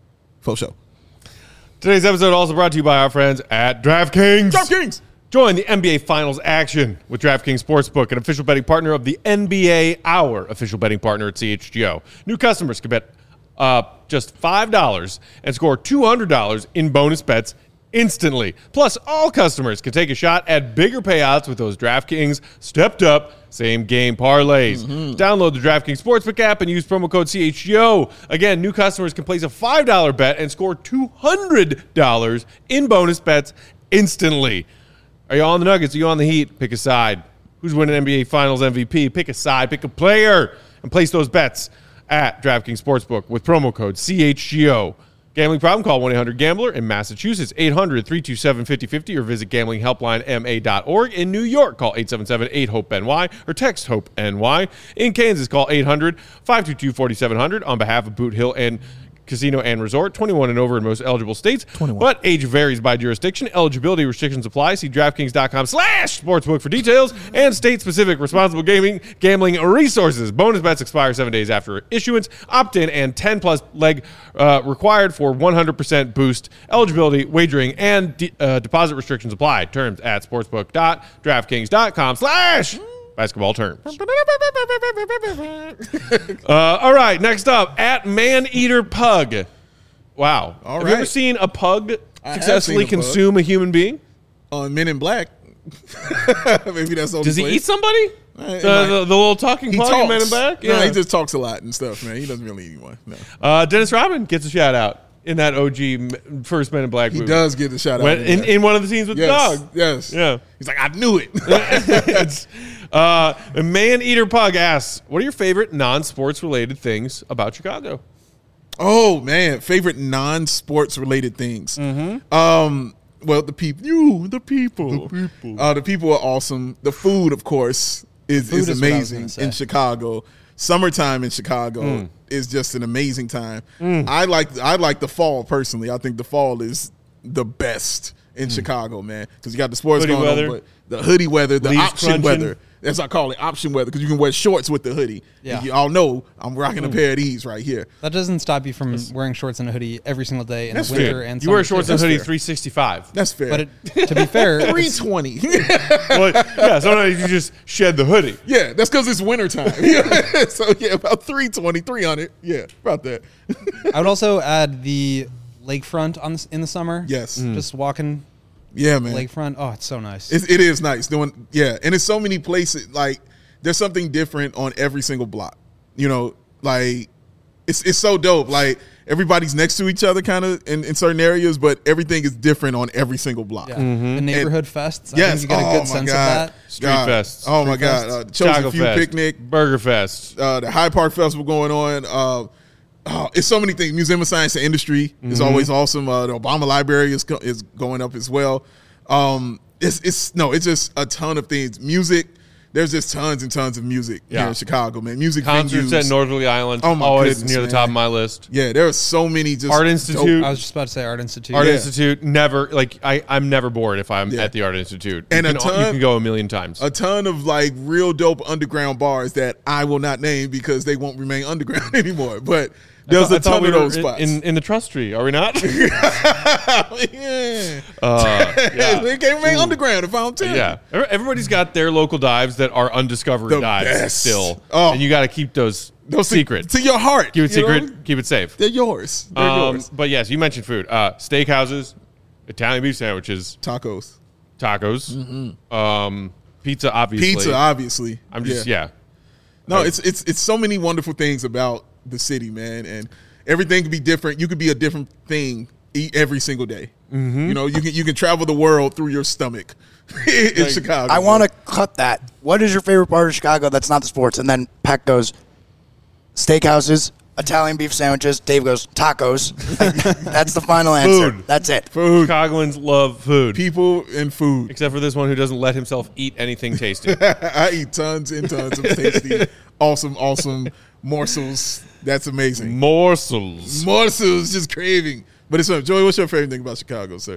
S2: Fo show.
S1: Today's episode also brought to you by our friends at DraftKings.
S2: DraftKings.
S1: Join the N B A Finals action with DraftKings Sportsbook, an official betting partner of the N B A, our official betting partner at C H G O. New customers can bet uh, just five dollars and score two hundred dollars in bonus bets instantly. Plus, all customers can take a shot at bigger payouts with those DraftKings stepped-up same-game parlays. Mm-hmm. Download the DraftKings Sportsbook app and use promo code C H G O. Again, new customers can place a five dollar bet and score two hundred dollars in bonus bets instantly. Are you on the Nuggets? Are you on the Heat? Pick a side. Who's winning N B A Finals M V P? Pick a side. Pick a player. And place those bets at DraftKings Sportsbook with promo code C H G O. Gambling problem? Call one eight hundred gambler in Massachusetts, eight hundred, three two seven, five oh five oh, or visit gambling helpline m a dot org. In New York, call eight seven seven, eight hope N Y or text HOPE-N-Y. In Kansas, call eight hundred, five two two, four seven zero zero on behalf of Boot Hill and Casino and Resort, twenty-one and over in most eligible states. twenty-one. But age varies by jurisdiction. Eligibility restrictions apply. See DraftKings.com slash sportsbook for details and state-specific responsible gaming gambling resources. Bonus bets expire seven days after issuance. Opt-in and ten-plus leg uh, required for one hundred percent boost. Eligibility, wagering, and de- uh, deposit restrictions apply. Terms at sportsbook.draftkings.com slash basketball terms. uh, all right, next up, at Man-Eater Pug. Wow.
S2: All
S1: have you ever
S2: right.
S1: seen a pug
S2: I have
S1: successfully
S2: seen a pug.
S1: consume a human being?
S2: On Men in Black. Maybe that's all.
S1: Does he eat somebody?
S2: Uh,
S1: The,
S2: it
S1: the,
S2: might-
S1: the little talking
S2: He
S1: pug
S2: talks.
S1: in Men in Black?
S2: No, he just talks a lot and stuff, man. He doesn't really eat one. No.
S1: uh, Dennis Rodman gets a shout out in that O G m- first Men in Black
S2: He
S1: movie.
S2: does get the shout out.
S1: When, in,
S2: there.
S1: in one of the scenes with
S2: yes,
S1: the dog.
S2: Yes.
S1: Yeah.
S2: He's like, I knew it.
S1: it's, uh, Man-Eater Pug asks, what are your favorite non-sports related things about Chicago?
S2: Oh man, favorite non-sports related things. Mm-hmm. Um, well, the people, you, the people, the people, uh, the people are awesome. The food, of course, is
S3: Food
S2: is
S3: is what I was
S2: amazing
S3: gonna say.
S2: in Chicago. summertime in Chicago
S1: Mm.
S2: is just an amazing time. I like I like the fall personally. I think the fall is the best in Chicago, man, because you got the sports
S1: Hoodie
S2: going
S1: weather.
S2: on, but the hoodie weather, the
S1: Leaves
S2: option
S1: crunching.
S2: weather. That's what I call it, option weather, because you can wear shorts with the hoodie.
S3: Yeah.
S2: And you all know I'm rocking a pair of these right here.
S3: That doesn't stop you from wearing shorts and a hoodie every single day in
S2: That's
S3: the winter
S2: fair.
S3: and
S1: You wear
S3: summer,
S1: shorts
S3: too.
S1: and hoodie
S2: fair.
S1: three sixty-five.
S2: That's fair.
S3: But it, to be fair,
S2: three
S3: it's-
S2: twenty.
S1: Well, yeah, sometimes you just shed the hoodie.
S2: Yeah, that's because it's wintertime. Yeah. So, yeah, about three twenty, three hundred. Yeah, about that.
S3: I would also add the lakefront on the, in the summer.
S2: Yes.
S1: Mm.
S3: Just walking
S2: Yeah, man.
S3: lakefront. Oh, it's so nice.
S2: It's, it is nice doing, yeah, and it's so many places. Like, there's something different on every single block. You know, like it's it's so dope. Like everybody's next to each other, kind of in, in certain areas, but everything is different on every single block.
S3: yeah. The neighborhood fests. I
S2: Yes,
S3: think you get a
S2: oh
S3: good
S2: my
S3: sense
S2: God.
S3: of that.
S1: Street
S2: God.
S1: fests.
S2: Oh my
S3: Street
S2: God,
S3: fests.
S2: uh, Chosen
S1: Chicago
S2: Few
S1: Fest,
S2: picnic,
S1: Burger Fest.
S2: uh, the Hyde Park Festival going on. Uh, oh, it's so many things. Museum of Science and Industry is
S1: Mm-hmm.
S2: always awesome. Uh, the Obama Library is go- is going up as well. Um, it's it's no, it's just a ton of things. Music. There's just tons and tons of music here
S1: Yeah.
S2: in Chicago, man. Music
S1: Concerts
S2: venues.
S1: at Northerly Island.
S2: Oh, my
S1: always
S2: goodness,
S1: near the
S2: man.
S1: top of my list.
S2: Yeah, there are so many just
S1: Art
S2: dope-
S1: Institute.
S3: I was just about to say Art Institute.
S1: Art
S2: Yeah.
S1: Institute, never like I. I'm never bored if I'm
S2: Yeah.
S1: at the Art Institute.
S2: And
S1: you
S2: a
S1: can,
S2: ton-
S1: you can go a million times.
S2: a ton of like real dope underground bars that I will not name because they won't remain underground anymore. But there's
S1: I
S2: a
S1: thought
S2: ton
S1: we
S2: of
S1: were
S2: those
S1: in,
S2: spots.
S1: in in the trust tree. Are we not?
S2: yeah.
S1: Uh, yeah.
S2: They can't remain underground if I don't tell you.
S1: Yeah, Every- everybody's got their local dives that are undiscovered
S2: The
S1: dives
S2: best.
S1: still,
S2: Oh.
S1: and you got to keep those,
S2: Those to-
S1: secret.
S2: to, your heart.
S1: keep it
S2: you know?
S1: secret. Keep it safe.
S2: They're yours. They're
S1: Um,
S2: yours.
S1: but yes, you mentioned food. Uh, steakhouses, Italian beef sandwiches,
S2: Tacos,
S1: tacos, um, pizza. Obviously,
S2: pizza, obviously.
S1: I'm just yeah.
S2: No,
S1: Right.
S2: it's it's it's so many wonderful things about the city, man, and everything can be different. You could be a different thing e- every single day.
S1: Mm-hmm.
S2: You know, you can you can travel the world through your stomach in
S1: Like,
S2: Chicago.
S4: I want to cut that. What is your favorite part of Chicago that's not the sports? And then Peck goes, steakhouses, Italian beef sandwiches. Dave goes, tacos. That's the final answer.
S1: Food.
S4: That's it.
S2: food,
S1: Chicagoans love food,
S2: people, and food.
S1: except for this one who doesn't let himself eat anything tasty.
S2: I eat tons and tons of tasty, awesome, awesome morsels. That's amazing.
S1: Morsels.
S2: Morsels, just craving. But it's fun. Joey, what's your favorite thing about Chicago, sir?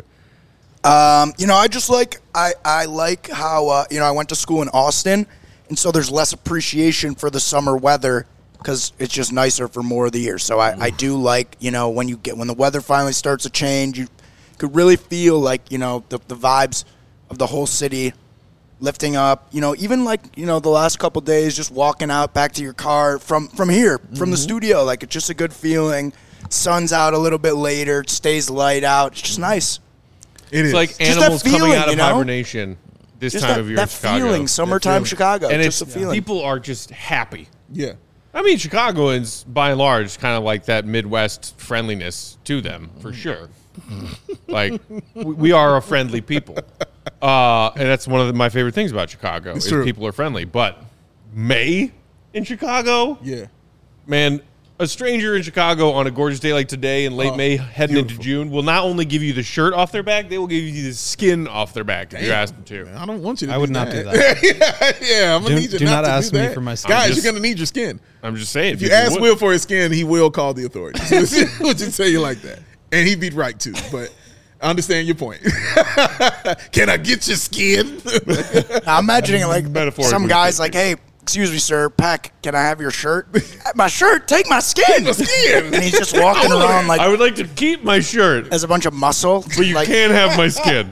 S4: Um, you know, I just like I, I like how uh, you know I went to school in Austin, and so there's less appreciation for the summer weather because it's just nicer for more of the year. So I, I do like you know when you get when the weather finally starts to change, you could really feel like you know the the vibes of the whole city lifting up. You know, even like you know the last couple days, just walking out back to your car from from here from the studio, like it's just a good feeling. Sun's out a little bit later, it stays light out. It's just nice.
S2: It is.
S1: It's like
S4: Just that
S1: animals coming
S4: feeling,
S1: out of
S4: you know?
S1: hibernation this
S4: Just
S1: time
S4: that,
S1: of year
S4: that
S1: in Chicago.
S4: feeling, summertime
S2: feeling.
S4: Chicago.
S1: and
S4: just
S1: it's
S4: a feeling.
S1: people are just happy.
S2: yeah.
S1: I mean, Chicagoans, by and large, kind of like that Midwest friendliness to them, for sure. Like, we we are a friendly people. Uh, and that's one of the, my favorite things about Chicago, is
S2: true.
S1: people are friendly. But May in Chicago,
S2: Yeah.
S1: man, a stranger in Chicago on a gorgeous day like today in late
S2: Oh,
S1: May, heading
S2: beautiful.
S1: into June, will not only give you the shirt off their back, they will give you the skin off their back if you
S2: Damn.
S1: ask them to.
S2: I don't want you to
S3: I
S2: do
S3: would not
S2: that.
S3: do that.
S2: yeah, yeah, I'm going to
S3: Do-
S2: need you
S3: do
S2: not,
S3: not
S2: to
S3: ask
S2: do
S3: me
S2: that.
S3: for my skin.
S2: Guys,
S1: I'm just-
S2: you're going to need your skin.
S1: I'm just saying.
S2: If you
S1: people
S2: ask
S1: would.
S2: Will for his skin, he will call the authorities. We'll just tell you like that. And he'd be right, too. But I understand your point. Can I get your skin?
S4: I'm imagining it like
S1: Metaphorically
S4: some guys
S1: speaking.
S4: like, hey, excuse me, sir, Peck, can I have your shirt? My shirt, take my skin.
S2: my skin.
S4: And he's just walking around like
S1: I would like to keep my shirt,
S4: as a bunch of muscle.
S1: but you
S4: like,
S1: can't have my skin.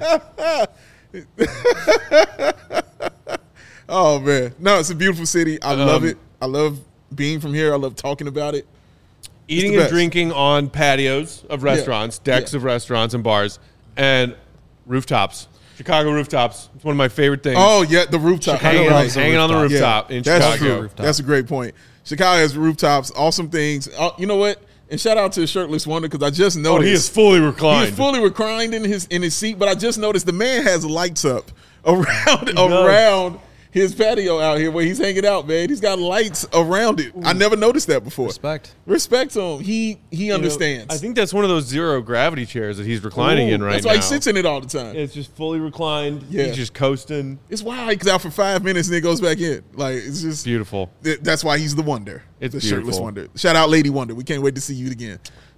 S2: Oh, man. No, it's a beautiful city. I love
S1: Um,
S2: it. I love being from here. I love talking about it.
S1: Eating
S2: the
S1: and
S2: best.
S1: drinking on patios of restaurants, decks
S2: Yeah.
S1: of restaurants and bars, and rooftops. Chicago rooftops. It's one of my favorite things.
S2: Oh, yeah, the rooftop.
S1: hanging,
S2: You're
S1: on,
S2: right.
S1: hanging on the rooftop in
S2: That's
S1: Chicago.
S2: true. That's a great point. Chicago has rooftops, awesome things. Uh, you know what? And shout out to Shirtless Wonder because I just
S1: Oh,
S2: noticed
S1: he is fully
S2: he
S1: reclined.
S2: is fully reclined in his in his seat. But I just noticed the man has lights up around
S1: does.
S2: around his patio out here where he's hanging out, man. He's got lights around it. I never noticed that before.
S3: Respect.
S2: Respect to him. He he
S1: You know,
S2: understands.
S1: I think that's one of those zero gravity chairs that he's reclining
S2: Ooh,
S1: in right
S2: That's
S1: now.
S2: why he sits in it all the time.
S1: It's just fully reclined.
S2: Yeah.
S1: He's just coasting.
S2: It's wild. He goes out for five minutes and then goes back in. Like, it's just
S1: Beautiful.
S2: th- That's why he's the wonder.
S1: It's
S2: the shirtless
S1: beautiful.
S2: wonder. Shout out Lady Wonder. We can't wait to see you again.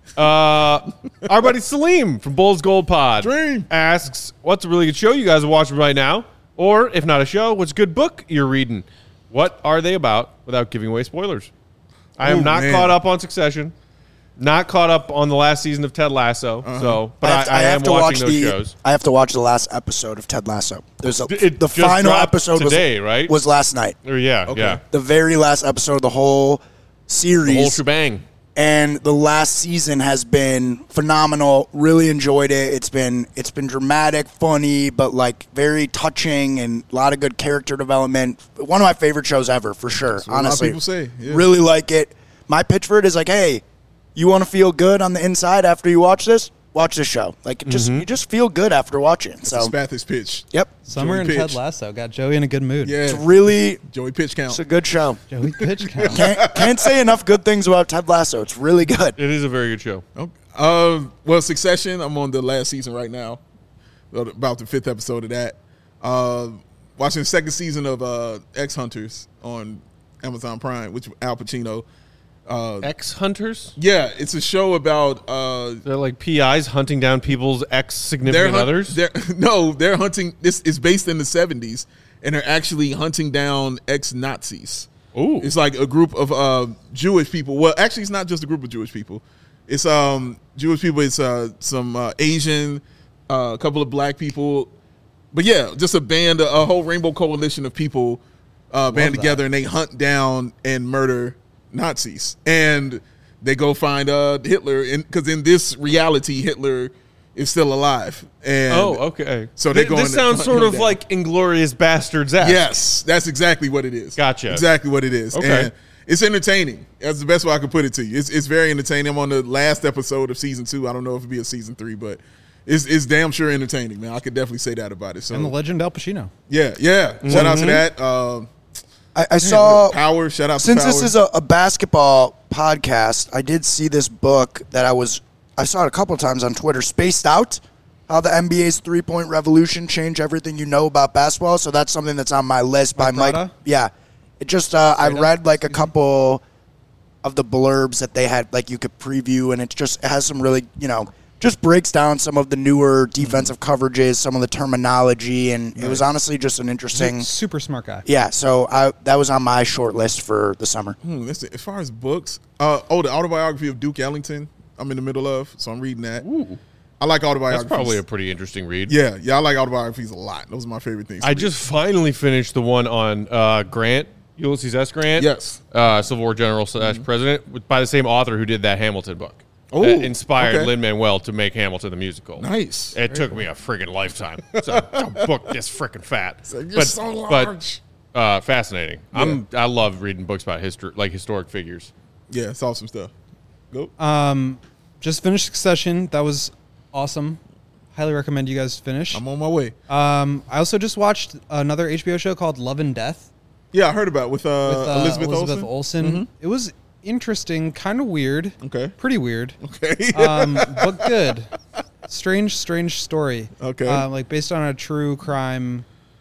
S1: Uh, our buddy Salim from Bulls Gold Pod
S2: Dream.
S1: asks, what's a really good show you guys are watching right now? Or, if not a show, what's a good book you're reading? What are they about without giving away spoilers? I am
S2: Ooh,
S1: not
S2: man.
S1: caught up on Succession. Not caught up on the last season of Ted Lasso.
S2: Uh-huh.
S1: So, but
S4: I
S1: I,
S4: have, to,
S1: I,
S4: I have
S1: am
S4: to
S1: watching
S4: watch
S1: those
S4: the.
S1: shows.
S4: I have to watch the last episode of Ted Lasso. There's a,
S1: It
S4: the
S1: just
S4: final
S1: dropped
S4: episode
S1: today,
S4: was,
S1: right?
S4: was last night.
S1: Or yeah,
S2: Okay.
S1: yeah.
S4: The very last episode of the whole series.
S1: The whole shebang.
S4: And the last season has been phenomenal. Really enjoyed it. It's been it's been dramatic, funny, but like very touching and a lot of good character development. One of my favorite shows ever, for sure.
S2: what a lot of
S4: honestly,
S2: people say, yeah.
S4: Really like it. My pitch for it is like, hey, you want to feel good on the inside after you watch this? Watch this show. Like, it just you just feel good after watching it. So,
S2: Spathis pitch.
S4: yep,
S3: Summer
S2: Joey
S3: and
S2: Pitch.
S3: Ted Lasso got Joey in a good mood.
S2: Yeah.
S4: it's really
S2: Joey pitch count.
S4: it's a good show.
S3: Joey pitch count.
S4: Can't can't say enough good things about Ted Lasso. It's really good.
S1: It is a very good show.
S2: Okay. Uh, well, Succession. I'm on the last season right now, about the fifth episode of that. Uh, watching the second season of uh, X Hunters on Amazon Prime, which Al Pacino. Uh,
S1: Ex hunters?
S2: yeah, it's a show about uh,
S1: They're like P Is hunting down people's ex
S2: they're
S1: significant
S2: hunt-
S1: others.
S2: They're, no, they're hunting. This is based in the seventies, and they're actually hunting down ex Nazis.
S1: Ooh.
S2: It's like a group of uh, Jewish people. Well, actually, it's not just a group of Jewish people. It's um Jewish people. It's uh, some uh, Asian, uh, a couple of black people. But yeah, just a band, a, a whole rainbow coalition of people uh, band
S3: that.
S2: together, and they hunt down and murder Nazis. And they go find uh, Hitler, because in this reality, Hitler is still alive. And
S1: Oh, okay.
S2: So they're
S1: Th-
S2: going
S1: This
S2: to
S1: sounds
S2: hunt
S1: sort
S2: him
S1: of
S2: down.
S1: like Inglorious Bastards.
S2: Yes, that's exactly what it is.
S1: Gotcha.
S2: Exactly what it is.
S1: Okay.
S2: And it's entertaining. That's the best way I could put it to you. It's it's very entertaining. I'm on the last episode of season two. I don't know if it'll be a season three, but it's it's damn sure entertaining, man. I could definitely say that about it. So
S3: And the legend Al Pacino.
S2: yeah, yeah. Shout out to
S1: Mm-hmm.
S2: that. Uh,
S4: I, I saw
S2: Power. Shout out to
S4: Since
S2: Power.
S4: this is a, a basketball podcast, I did see this book that I was I saw it a couple of times on Twitter. Spaced Out, how the N B A's three point revolution changed everything you know about basketball. So that's something that's on my list by
S3: Mike
S4: Mike.
S3: Prada?
S4: Yeah, it just uh, I
S3: Prada?
S4: read like a couple of the blurbs that they had, like you could preview, and it just it has some really you know just breaks down some of the newer defensive coverages, some of the terminology, and it was honestly just an interesting.
S3: Super smart guy.
S4: Yeah, so I, that was on my short list for the summer.
S2: Hmm, let's see. As far as books, uh, oh, the autobiography of Duke Ellington. I'm in the middle of, so I'm reading that.
S1: Ooh.
S2: I like
S1: That's
S2: autobiographies.
S1: probably a pretty interesting read.
S2: yeah, yeah. I like autobiographies a lot. Those are my favorite things. to
S1: I
S2: read.
S1: just finally finished the one on uh, Grant, Ulysses S. Grant.
S2: Yes.
S1: Uh, Civil War general slash president, with, by the same author who did that Hamilton book.
S2: Oh,
S1: that inspired
S2: okay.
S1: Lin-Manuel to make Hamilton the musical.
S2: Nice.
S1: It took me a friggin' lifetime to, to book this frickin' fat.
S2: like, you're so large.
S1: But uh, fascinating. I'm I love reading books about history, like historic figures.
S2: Yeah, it's awesome stuff. Go.
S3: Um, just finished Succession. That was awesome. Highly recommend you guys finish.
S2: I'm on my way.
S3: Um, I also just watched another H B O show called Love and Death
S2: Yeah, I heard about it with, uh,
S3: with uh,
S2: Elizabeth,
S3: Elizabeth
S2: Olsen.
S3: Olsen. It was interesting, kind of weird.
S2: Okay.
S3: Pretty weird.
S2: Okay.
S3: um, but good. Strange, strange story.
S2: Okay.
S3: Uh, like based on a true crime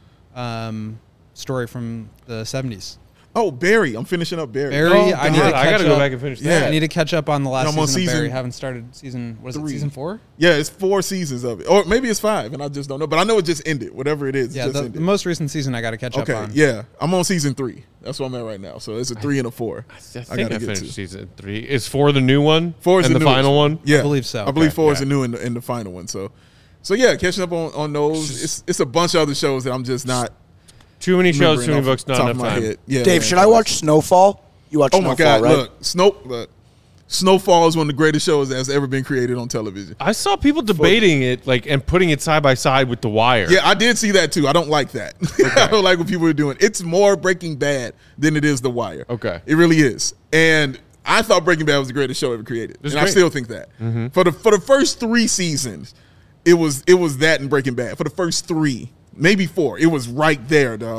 S3: um, story from the seventies.
S2: oh, Barry. I'm finishing up Barry.
S3: Barry,
S1: Oh,
S3: I need
S1: God,
S3: to
S1: I
S3: catch
S1: gotta go
S3: up.
S1: back and finish
S2: Yeah.
S1: that.
S3: I need to catch up on the last
S2: I'm on
S3: season, of Barry.
S2: season
S3: Haven't started season. What is
S2: three.
S3: it? Season four?
S2: Yeah, it's four seasons of it, or maybe it's five, and I just don't know. But I know it just ended. Whatever it is, it
S3: Yeah,
S2: just
S3: the,
S2: ended.
S3: the most recent season I got to catch
S2: okay,
S3: up on.
S2: yeah, I'm on season three. That's what I'm at right now. So it's a three and a four.
S1: I think
S2: gotta
S1: I,
S2: get
S1: finished
S2: to.
S1: season three. Is four the new one?
S2: Four is
S1: and
S2: the,
S1: the,
S2: newest
S1: final one.
S2: Yeah,
S3: I believe so.
S2: I believe
S1: Okay,
S2: four is
S1: yeah.
S2: the new and the, and the final one. So, so yeah, catching up on, on those. It's it's a bunch of other shows that I'm just not
S1: Too many shows,
S2: remembering
S1: too many
S2: off
S1: books,
S2: the
S1: not
S2: top of
S1: enough
S2: my
S1: time.
S2: head. Yeah,
S4: Dave,
S2: man.
S4: should I watch Snowfall? You watch
S2: Oh
S4: Snowfall,
S2: my God!
S4: right?
S2: Look, Snow, look, Snowfall is one of the greatest shows that's ever been created on television.
S1: I saw people debating it, like, and putting it side by side with The Wire.
S2: Yeah, I did see that too. I don't like that. I don't like what people are doing. It's more Breaking Bad than it is The Wire.
S1: Okay.
S2: It really is. And I thought Breaking Bad was the greatest show ever created.
S1: It's
S2: and I
S1: great.
S2: still think that. For the for the first three seasons, it was it was that in Breaking Bad. For the first three, maybe four, it was right there, dog.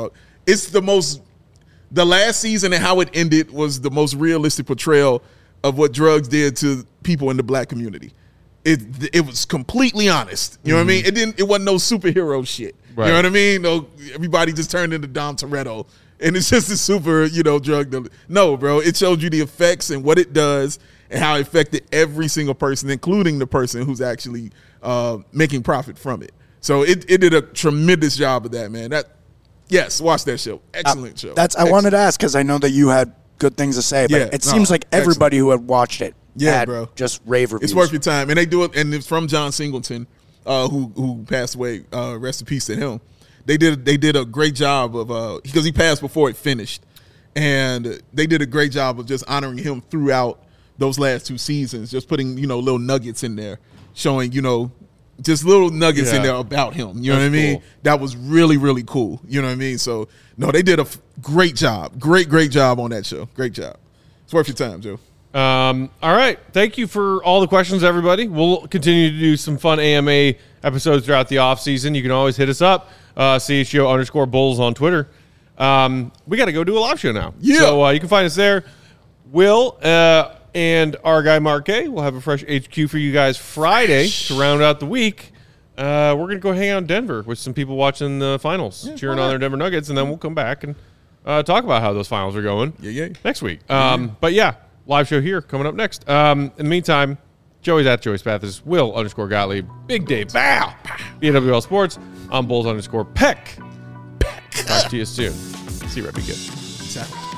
S2: it's the most. The last season and how it ended was the most realistic portrayal of what drugs did to people in the black community. It it was completely honest. You know mm-hmm. what I mean? It didn't. It wasn't no superhero shit. Right. You know what I mean? No, everybody just turned into Dom Toretto, and it's just a super, you know, drug dealer. No, bro. It showed you the effects and what it does and how it affected every single person, including the person who's actually uh, making profit from it. So it it did a tremendous job of that, man. That. Yes, watch that show. Excellent uh, show.
S4: That's I
S2: Excellent.
S4: wanted to ask because I know that you had good things to say, but
S2: yeah,
S4: it seems
S2: no,
S4: like everybody
S2: excellent.
S4: who had watched it
S2: yeah,
S4: had
S2: bro.
S4: just rave reviews.
S2: It's worth your time. And they do it, and it's from John Singleton, uh, who who passed away. Uh, rest in peace to him. They did they did a great job of uh, because he passed before it finished, and they did a great job of just honoring him throughout those last two seasons, just putting, you know, little nuggets in there, showing, you know, just little nuggets
S1: yeah.
S2: in there about him. You know
S1: That's
S2: what I mean?
S1: cool.
S2: That was really, really cool. You know what I mean? So, no, they did a f- great job. Great, great job on that show. Great job. It's worth your time, Joe.
S1: Um, all right. Thank you for all the questions, everybody. We'll continue to do some fun A M A episodes throughout the offseason. You can always hit us up, uh, C H G O underscore Bulls on Twitter. Um, we got to go do a live show now.
S2: Yeah.
S1: So uh, you can find us there. Will uh, and our guy Mark A will have a fresh H Q for you guys Friday to round out the week. Uh, we're going to go hang out in Denver with some people watching the finals,
S2: Yeah,
S1: cheering
S2: all
S1: on
S2: right.
S1: their Denver Nuggets, and then we'll come back and uh, talk about how those finals are going
S2: Yeah, yeah.
S1: next week. Um, But yeah, live show here coming up next. Um, in the meantime, Joey's at Joey Spathis, Will underscore Gottlieb, Big Dave Bow, B W L Sports, I'm Bulls underscore Peck. Peck. Talk to you soon. See you, Rebby. Good.
S2: Exactly.